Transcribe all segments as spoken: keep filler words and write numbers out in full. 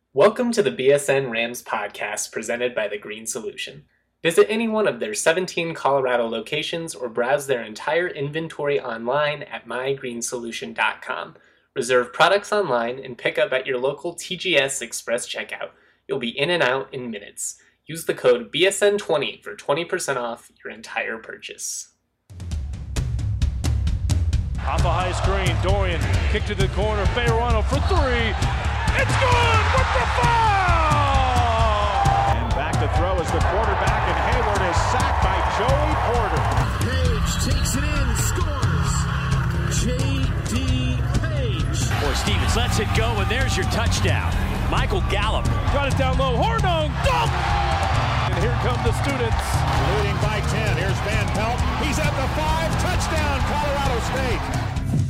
Welcome to the B S N Rams podcast presented by The Green Solution. Visit any one of their seventeen Colorado locations or browse their entire inventory online at my green solution dot com. Reserve products online and pick up at your local T G S Express checkout. You'll be in and out in minutes. Use the code B S N twenty for twenty percent off your entire purchase. Off a high screen, Dorian kick to the corner, Fayerano for three. It's good with the foul! And back to throw is the quarterback, and Hayward is sacked by Joey Porter. Page takes it in, scores. J D. Page. Or Stevens lets it go, and there's your touchdown. Michael Gallup. Got it down low, Hornung, dunk! And here come the students. Leading by ten, here's Van Pelt. He's at the five, touchdown, Colorado State.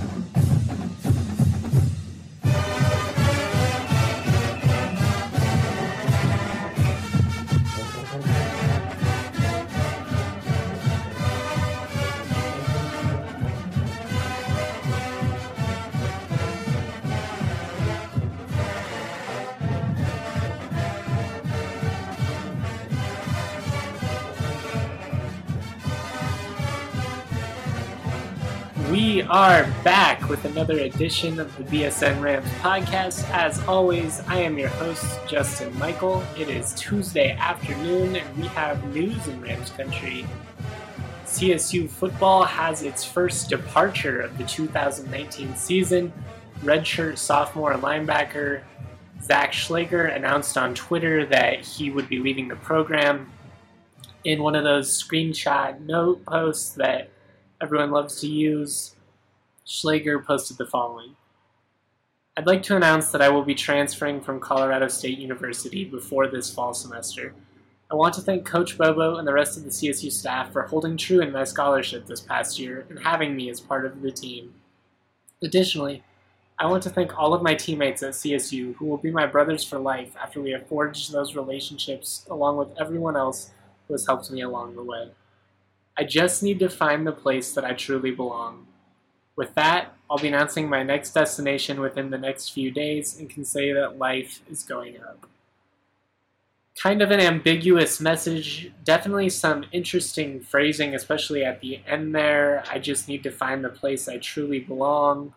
We are back with another edition of the B S N Rams podcast. As always, I am your host, Justin Michael. It is Tuesday afternoon, and we have news in Rams country. C S U football has its first departure of the two thousand nineteen season. Redshirt sophomore linebacker Zach Schlager announced on Twitter that he would be leaving the program. In one of those screenshot note posts that everyone loves to use, Schlager posted the following. I'd like to announce that I will be transferring from Colorado State University before this fall semester. I want to thank Coach Bobo and the rest of the C S U staff for holding true in my scholarship this past year and having me as part of the team. Additionally, I want to thank all of my teammates at C S U who will be my brothers for life after we have forged those relationships along with everyone else who has helped me along the way. I just need to find the place that I truly belong. With that, I'll be announcing my next destination within the next few days and can say that life is going up. Kind of an ambiguous message, definitely some interesting phrasing, especially at the end there. I just need to find the place I truly belong.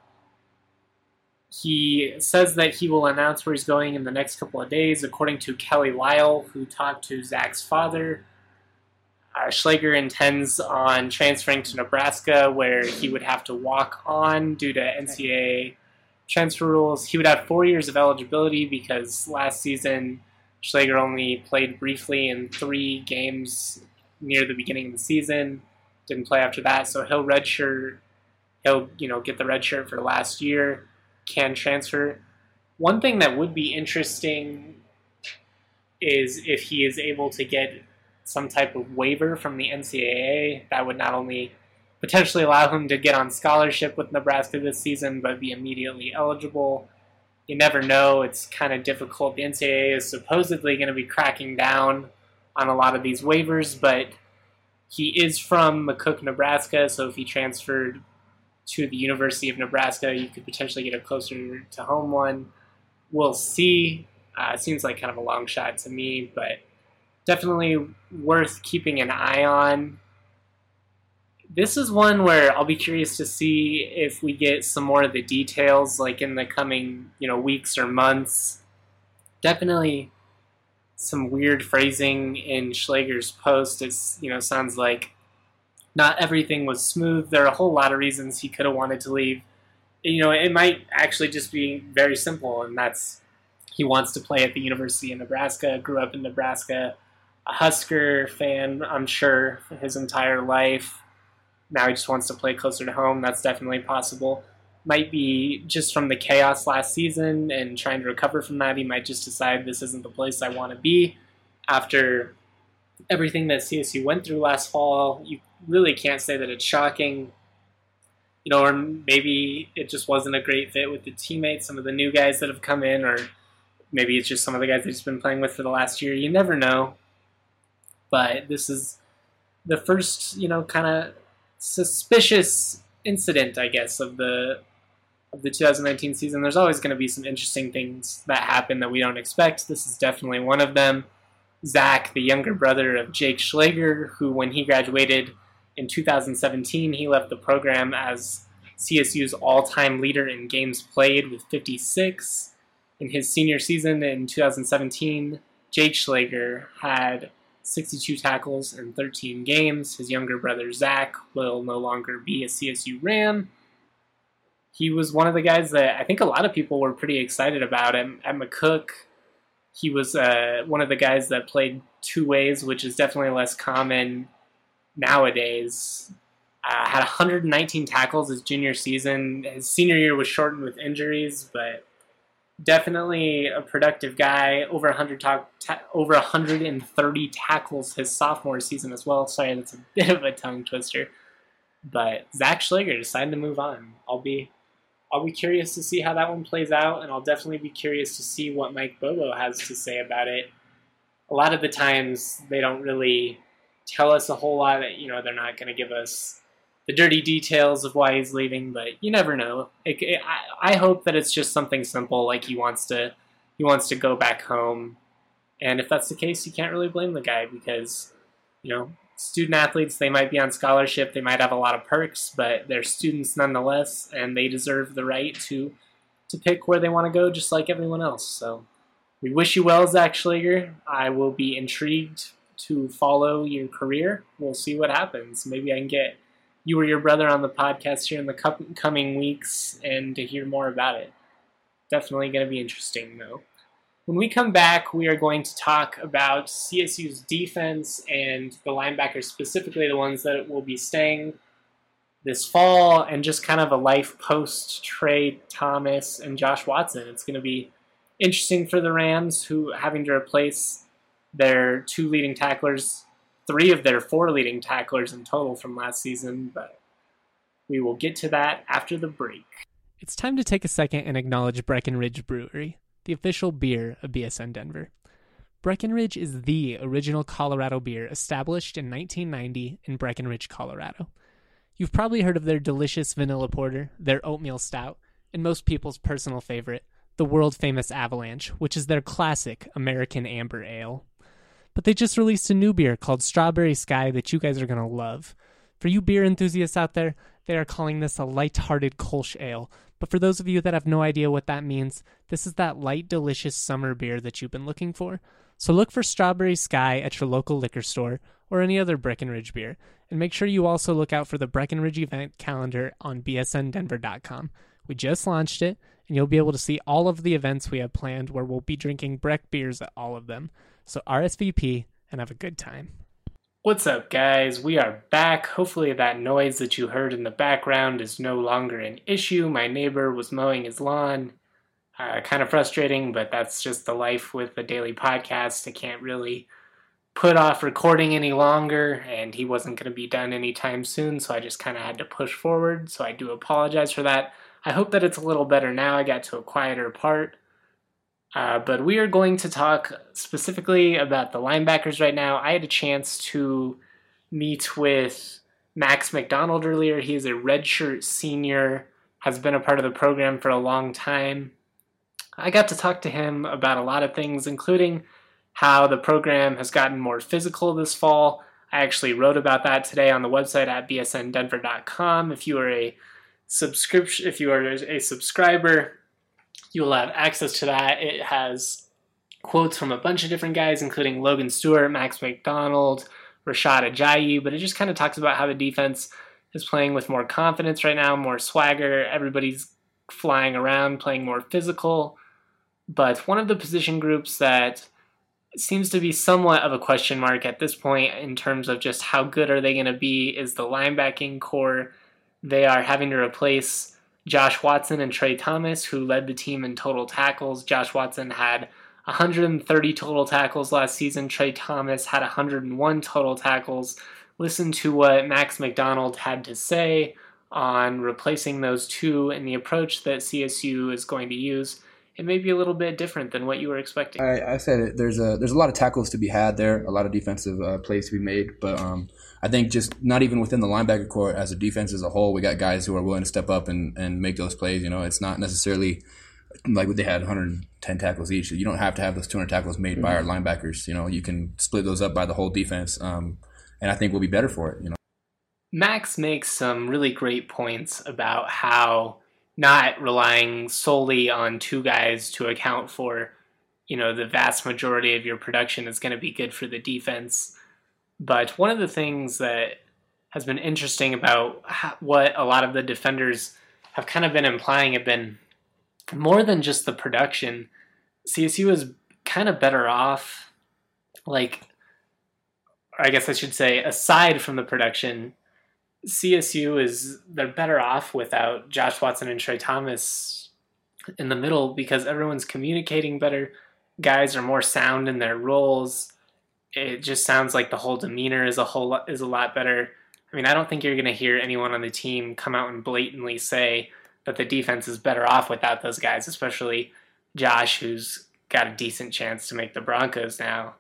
He says that he will announce where he's going in the next couple of days, according to Kelly Lyle, who talked to Zach's father. Uh, Schlager intends on transferring to Nebraska, where he would have to walk on due to N C double A transfer rules. He would have four years of eligibility because last season Schlager only played briefly in three games near the beginning of the season. Didn't play after that, so he'll redshirt. He'll, you know, get the red shirt for last year. Can transfer. One thing that would be interesting is if he is able to get some type of waiver from the N C double A. That would not only potentially allow him to get on scholarship with Nebraska this season, but be immediately eligible. You never know. It's kind of difficult. The N C double A is supposedly going to be cracking down on a lot of these waivers, but he is from McCook, Nebraska, so if he transferred to the University of Nebraska, you could potentially get a closer to home one. We'll see. Uh, it seems like kind of a long shot to me, but definitely worth keeping an eye on. This is one where I'll be curious to see if we get some more of the details, like in the coming, you know, weeks or months. Definitely some weird phrasing in Schlager's post. It's, you know, sounds like not everything was smooth. There are a whole lot of reasons he could have wanted to leave. You know, it might actually just be very simple, and that's he wants to play at the University of Nebraska, grew up in Nebraska, a Husker fan, I'm sure, for his entire life. Now he just wants to play closer to home. That's definitely possible. Might be just from the chaos last season and trying to recover from that. He might just decide this isn't the place I want to be. After everything that C S U went through last fall, you really can't say that it's shocking. You know, or maybe it just wasn't a great fit with the teammates, some of the new guys that have come in, or maybe it's just some of the guys that he's been playing with for the last year. You never know. But this is the first, you know, kind of suspicious incident, I guess, of the of the two thousand nineteen season. There's always going to be some interesting things that happen that we don't expect. This is definitely one of them. Zach, the younger brother of Jake Schlager, who when he graduated in two thousand seventeen, he left the program as C S U's all-time leader in games played with fifty-six. In his senior season in two thousand seventeen, Jake Schlager had sixty-two tackles in thirteen games. His younger brother Zach will no longer be a C S U Ram. He was one of the guys that I think a lot of people were pretty excited about. At, at McCook, he was uh, one of the guys that played two ways, which is definitely less common nowadays. Uh, had one hundred nineteen tackles his junior season. His senior year was shortened with injuries, but definitely a productive guy. Over one hundred ta- ta- over one hundred thirty tackles his sophomore season as well. Sorry, that's a bit of a tongue twister. But Zach Schlager decided to move on. I'll be, I'll be curious to see how that one plays out, and I'll definitely be curious to see what Mike Bobo has to say about it. A lot of the times they don't really tell us a whole lot. You know, they're not going to give us the dirty details of why he's leaving, but you never know. It, it, I, I hope that it's just something simple, like he wants to he wants to go back home. And if that's the case, you can't really blame the guy because, you know, student athletes, they might be on scholarship, they might have a lot of perks, but they're students nonetheless, and they deserve the right to to pick where they want to go just like everyone else. So we wish you well, Zach Schlager. I will be intrigued to follow your career. We'll see what happens. Maybe I can get you or your brother on the podcast here in the coming weeks and to hear more about it. Definitely going to be interesting, though. When we come back, we are going to talk about C S U's defense and the linebackers, specifically the ones that will be staying this fall, and just kind of a life post Trey Thomas and Josh Watson. It's going to be interesting for the Rams, who having to replace their two leading tacklers, three of their four leading tacklers in total from last season, but we will get to that after the break. It's time to take a second and acknowledge Breckenridge Brewery, the official beer of B S N Denver. Breckenridge is the original Colorado beer established in nineteen ninety in Breckenridge, Colorado. You've probably heard of their delicious vanilla porter, their oatmeal stout, and most people's personal favorite, the world-famous Avalanche, which is their classic American Amber Ale. But they just released a new beer called Strawberry Sky that you guys are going to love. For you beer enthusiasts out there, they are calling this a light-hearted Kolsch ale. But for those of you that have no idea what that means, this is that light, delicious summer beer that you've been looking for. So look for Strawberry Sky at your local liquor store or any other Breckenridge beer. And make sure you also look out for the Breckenridge event calendar on b s n denver dot com. We just launched it, and you'll be able to see all of the events we have planned where we'll be drinking Breck beers at all of them. So R S V P and have a good time. What's up, guys? We are back. Hopefully that noise that you heard in the background is no longer an issue. My neighbor was mowing his lawn. Uh, kind of frustrating, but that's just the life with the daily podcast. I can't really put off recording any longer, and he wasn't going to be done anytime soon, so I just kind of had to push forward. So I do apologize for that. I hope that it's a little better now. I got to a quieter part. Uh, but we are going to talk specifically about the linebackers right now. I had a chance to meet with Max McDonald earlier. He is a redshirt senior, has been a part of the program for a long time. I got to talk to him about a lot of things, including how the program has gotten more physical this fall. I actually wrote about that today on the website at b s n denver dot com. If you are a subscription, if you are a subscriber, you will have access to that. It has quotes from a bunch of different guys, including Logan Stewart, Max McDonald, Rashad Ajayi, but it just kind of talks about how the defense is playing with more confidence right now, more swagger. Everybody's flying around, playing more physical. But one of the position groups that seems to be somewhat of a question mark at this point in terms of just how good are they going to be is the linebacking core. They are having to replace Josh Watson and Trey Thomas, who led the team in total tackles. Josh Watson had one hundred thirty total tackles last season. Trey Thomas had one hundred one total tackles. Listen to what Max McDonald had to say on replacing those two and the approach that C S U is going to use. it may be a little bit different than what you were expecting. I, I said it. There's a there's a lot of tackles to be had there, a lot of defensive uh, plays to be made. But um, I think just not even within the linebacker core as a defense as a whole, we got guys who are willing to step up and, and make those plays. You know, it's not necessarily like they had one hundred ten tackles each. You don't have to have those two hundred tackles made mm-hmm. by our linebackers. You know, you can split those up by the whole defense, um, and I think we'll be better for it. You know, Max makes some really great points about how not relying solely on two guys to account for, you know, the vast majority of your production is going to be good for the defense. But one of the things that has been interesting about how, what a lot of the defenders have kind of been implying have been more than just the production. C S U is kind of better off, like, or I guess I should say, aside from the production, C S U is, they're better off without Josh Watson and Trey Thomas in the middle because everyone's communicating better. Guys are more sound in their roles. It just sounds like the whole demeanor is a whole lot, is a lot better. I mean, I don't think you're going to hear anyone on the team come out and blatantly say that the defense is better off without those guys, especially Josh, who's got a decent chance to make the Broncos now.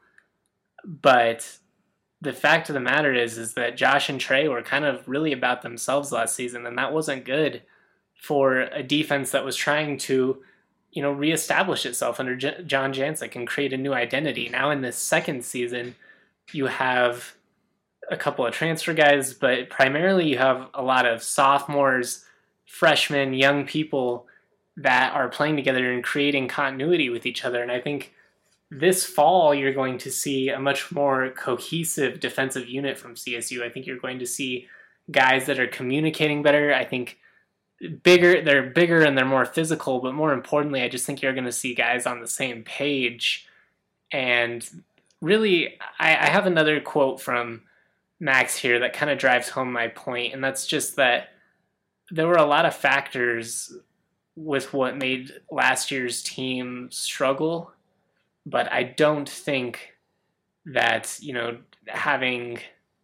But the fact of the matter is, is that Josh and Trey were kind of really about themselves last season, and that wasn't good for a defense that was trying to, you know, reestablish itself under J- John Jancic and create a new identity. Now in this second season, you have a couple of transfer guys, but primarily you have a lot of sophomores, freshmen, young people that are playing together and creating continuity with each other. And I think this fall, you're going to see a much more cohesive defensive unit from C S U. I think you're going to see guys that are communicating better. I think bigger, they're bigger and they're more physical, but more importantly, I just think you're going to see guys on the same page. And really, I, I have another quote from Max here that kind of drives home my point, and that's just that there were a lot of factors with what made last year's team struggle. But I don't think that, you know, having,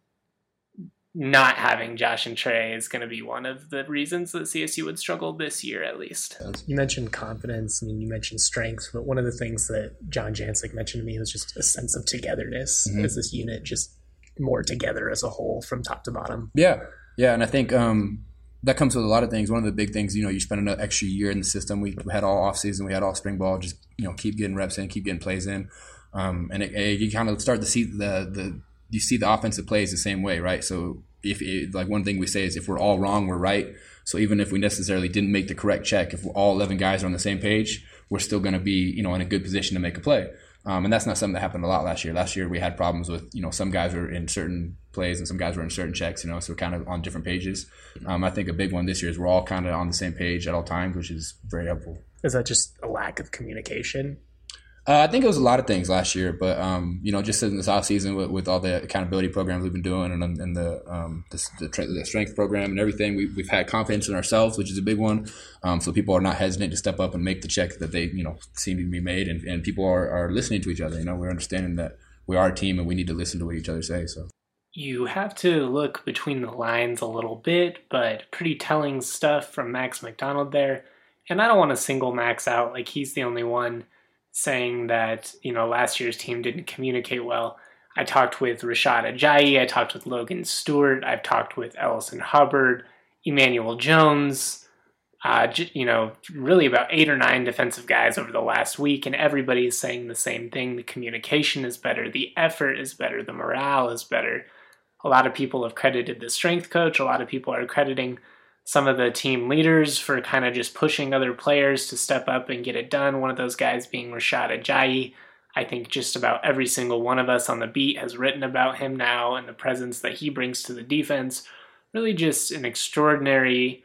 not having Josh and Trey is going to be one of the reasons that C S U would struggle this year, at least. You mentioned confidence and you mentioned strength, but one of the things that John Jancic mentioned to me was just a sense of togetherness mm-hmm. as this unit, just more together as a whole from top to bottom. Yeah, yeah, and I think um, that comes with a lot of things. One of the big things, you know, you spend an extra year in the system. We had all off season, we had all spring ball. Just, you know, keep getting reps in, keep getting plays in, um, and it, it, you kind of start to see the the you see the offensive plays the same way, right? So if it, like one thing we say is if we're all wrong, we're right. So even if we necessarily didn't make the correct check, if all eleven guys are on the same page, we're still going to be, you know, in a good position to make a play. Um, and that's not something that happened a lot last year. Last year we had problems with, you know, some guys were in certain plays and some guys were in certain checks, you know, so we're kind of on different pages. Um, I think a big one this year is we're all kind of on the same page at all times, which is very helpful. Is that just a lack of communication? Uh, I think it was a lot of things last year, but um, you know, just in this off season with, with all the accountability programs we've been doing and, and the, um, the, the the strength program and everything, we, we've had confidence in ourselves, which is a big one. Um, so people are not hesitant to step up and make the check that they, you know, seem to be made, and, and people are, are listening to each other. You know, we're understanding that we are a team and we need to listen to what each other say. So you have to look between the lines a little bit, but pretty telling stuff from Max McDonald there. And I don't want to single Max out like he's the only one saying that, you know, last year's team didn't communicate well. I talked with Rashad Ajayi, I talked with Logan Stewart, I've talked with Ellison Hubbard, Emmanuel Jones, uh, you know, really about eight or nine defensive guys over the last week, and everybody is saying the same thing. The communication is better, the effort is better, the morale is better. A lot of people have credited the strength coach, a lot of people are crediting some of the team leaders for kind of just pushing other players to step up and get it done. One of those guys being Rashad Ajayi. I think just about every single one of us on the beat has written about him now and the presence that he brings to the defense. Really just an extraordinary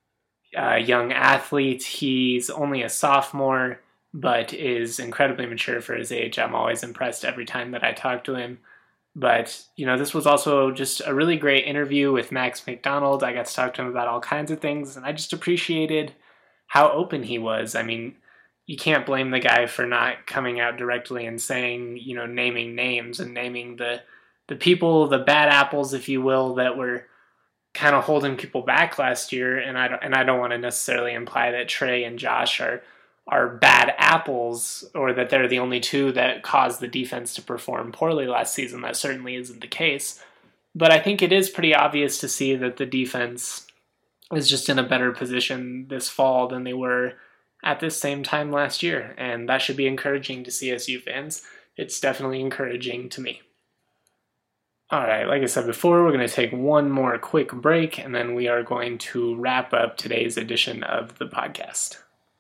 uh, young athlete. He's only a sophomore, but is incredibly mature for his age. I'm always impressed every time that I talk to him. But, you know, this was also just a really great interview with Max McDonald. I got to talk to him about all kinds of things, and I just appreciated how open he was. I mean, you can't blame the guy for not coming out directly and saying, you know, naming names and naming the the people, the bad apples, if you will, that were kind of holding people back last year. And I don't, and I don't want to necessarily imply that Trey and Josh are are bad apples or that they're the only two that caused the defense to perform poorly last season. That certainly isn't the case. But I think it is pretty obvious to see that the defense is just in a better position this fall than they were at this same time last year. And that should be encouraging to C S U fans. It's definitely encouraging to me. All right, like I said before, we're going to take one more quick break, and then we are going to wrap up today's edition of the podcast.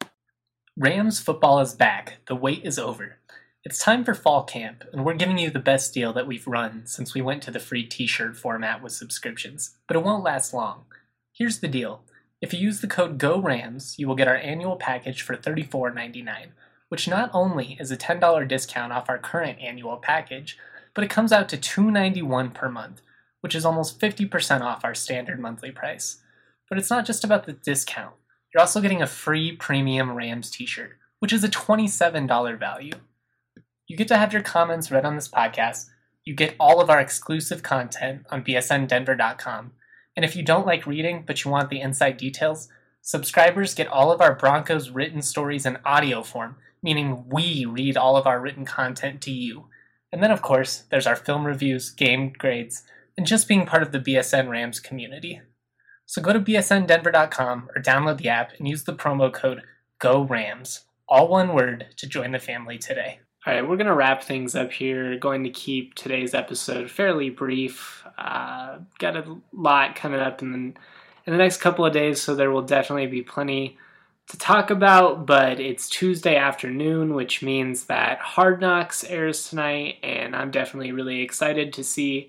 Rams football is back. The wait is over. It's time for fall camp, and we're giving you the best deal that we've run since we went to the free t-shirt format with subscriptions, but it won't last long. Here's the deal. If you use the code GORAMS, you will get our annual package for thirty-four ninety-nine, which not only is a ten dollars discount off our current annual package, but it comes out to two hundred ninety-one dollars per month, which is almost fifty percent off our standard monthly price. But it's not just about the discount. You're also getting a free premium Rams t-shirt, which is a twenty-seven dollars value. You get to have your comments read on this podcast. You get all of our exclusive content on B S N Denver dot com. And if you don't like reading, but you want the inside details, subscribers get all of our Broncos written stories in audio form, meaning we read all of our written content to you. And then, of course, there's our film reviews, game grades, and just being part of the B S N Rams community. So go to B S N Denver dot com or download the app and use the promo code GORAMS, all one word, to join the family today. All right, we're going to wrap things up here. Going to keep today's episode fairly brief. Uh, got a lot coming up in the, in the next couple of days, so there will definitely be plenty to talk about, but it's Tuesday afternoon, which means that Hard Knocks airs tonight, and I'm definitely really excited to see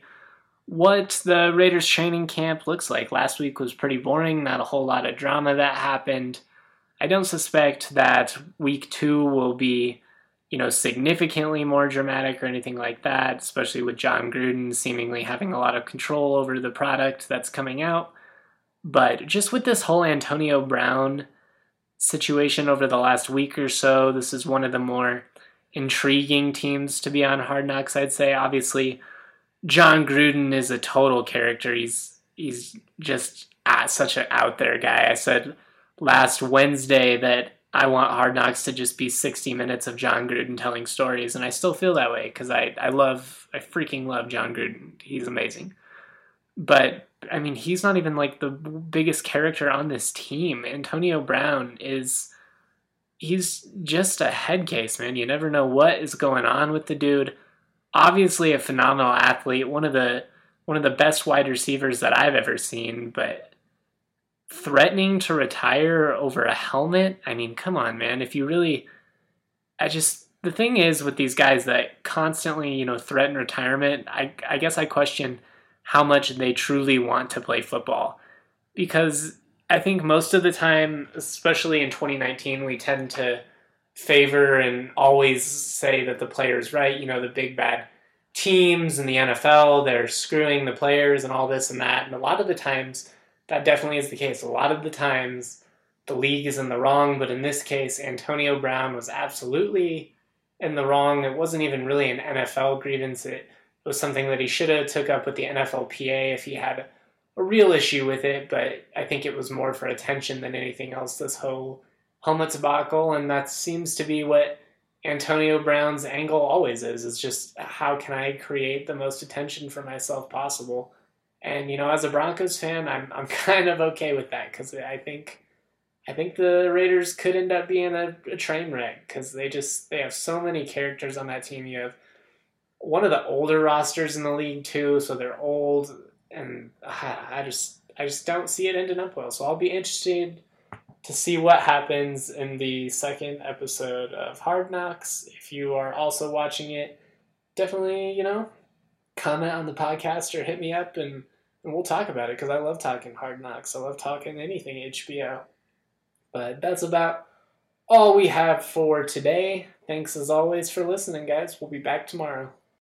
what the Raiders training camp looks like. Last week was pretty boring, not a whole lot of drama that happened. I don't suspect that week two will be, you know, significantly more dramatic or anything like that, especially with Jon Gruden seemingly having a lot of control over the product that's coming out. But just with this whole Antonio Brown situation over the last week or so, this is one of the more intriguing teams to be on Hard Knocks, I'd say. Obviously, Jon Gruden is a total character. He's he's just ah, such an out there guy. I said last Wednesday that I want Hard Knocks to just be sixty minutes of Jon Gruden telling stories, and I still feel that way because I, I love, I freaking love Jon Gruden. He's amazing. But, I mean, he's not even like the biggest character on this team. Antonio Brown is, he's just a head case, man. You never know what is going on with the dude. Obviously a phenomenal athlete, one of the one of the best wide receivers that I've ever seen, but threatening to retire over a helmet? I mean, come on, man. If you really, I just, the thing is with these guys that constantly, you know, threaten retirement, I, I guess I question how much they truly want to play football. Because I think most of the time, especially in twenty nineteen, we tend to favor and always say that the player's right. You know, the big bad teams in the N F L, they're screwing the players and all this and that. And a lot of the times, that definitely is the case. A lot of the times, the league is in the wrong, but in this case, Antonio Brown was absolutely in the wrong. It wasn't even really an N F L grievance. It was something that he should have took up with the N F L P A if he had a real issue with it, but I think it was more for attention than anything else, this whole helmet debacle, and that seems to be what Antonio Brown's angle always is. It's just, how can I create the most attention for myself possible? And, you know, as a Broncos fan, I'm I'm kind of okay with that because I think I think the Raiders could end up being a, a train wreck because they just they have so many characters on that team. You have one of the older rosters in the league too, so they're old, and I, I just I just don't see it ending up well. So I'll be interested to see what happens in the second episode of Hard Knocks. If you are also watching it, definitely, you know, comment on the podcast or hit me up and And we'll talk about it because I love talking Hard Knocks. I love talking anything H B O. But that's about all we have for today. Thanks as always for listening, guys. We'll be back tomorrow.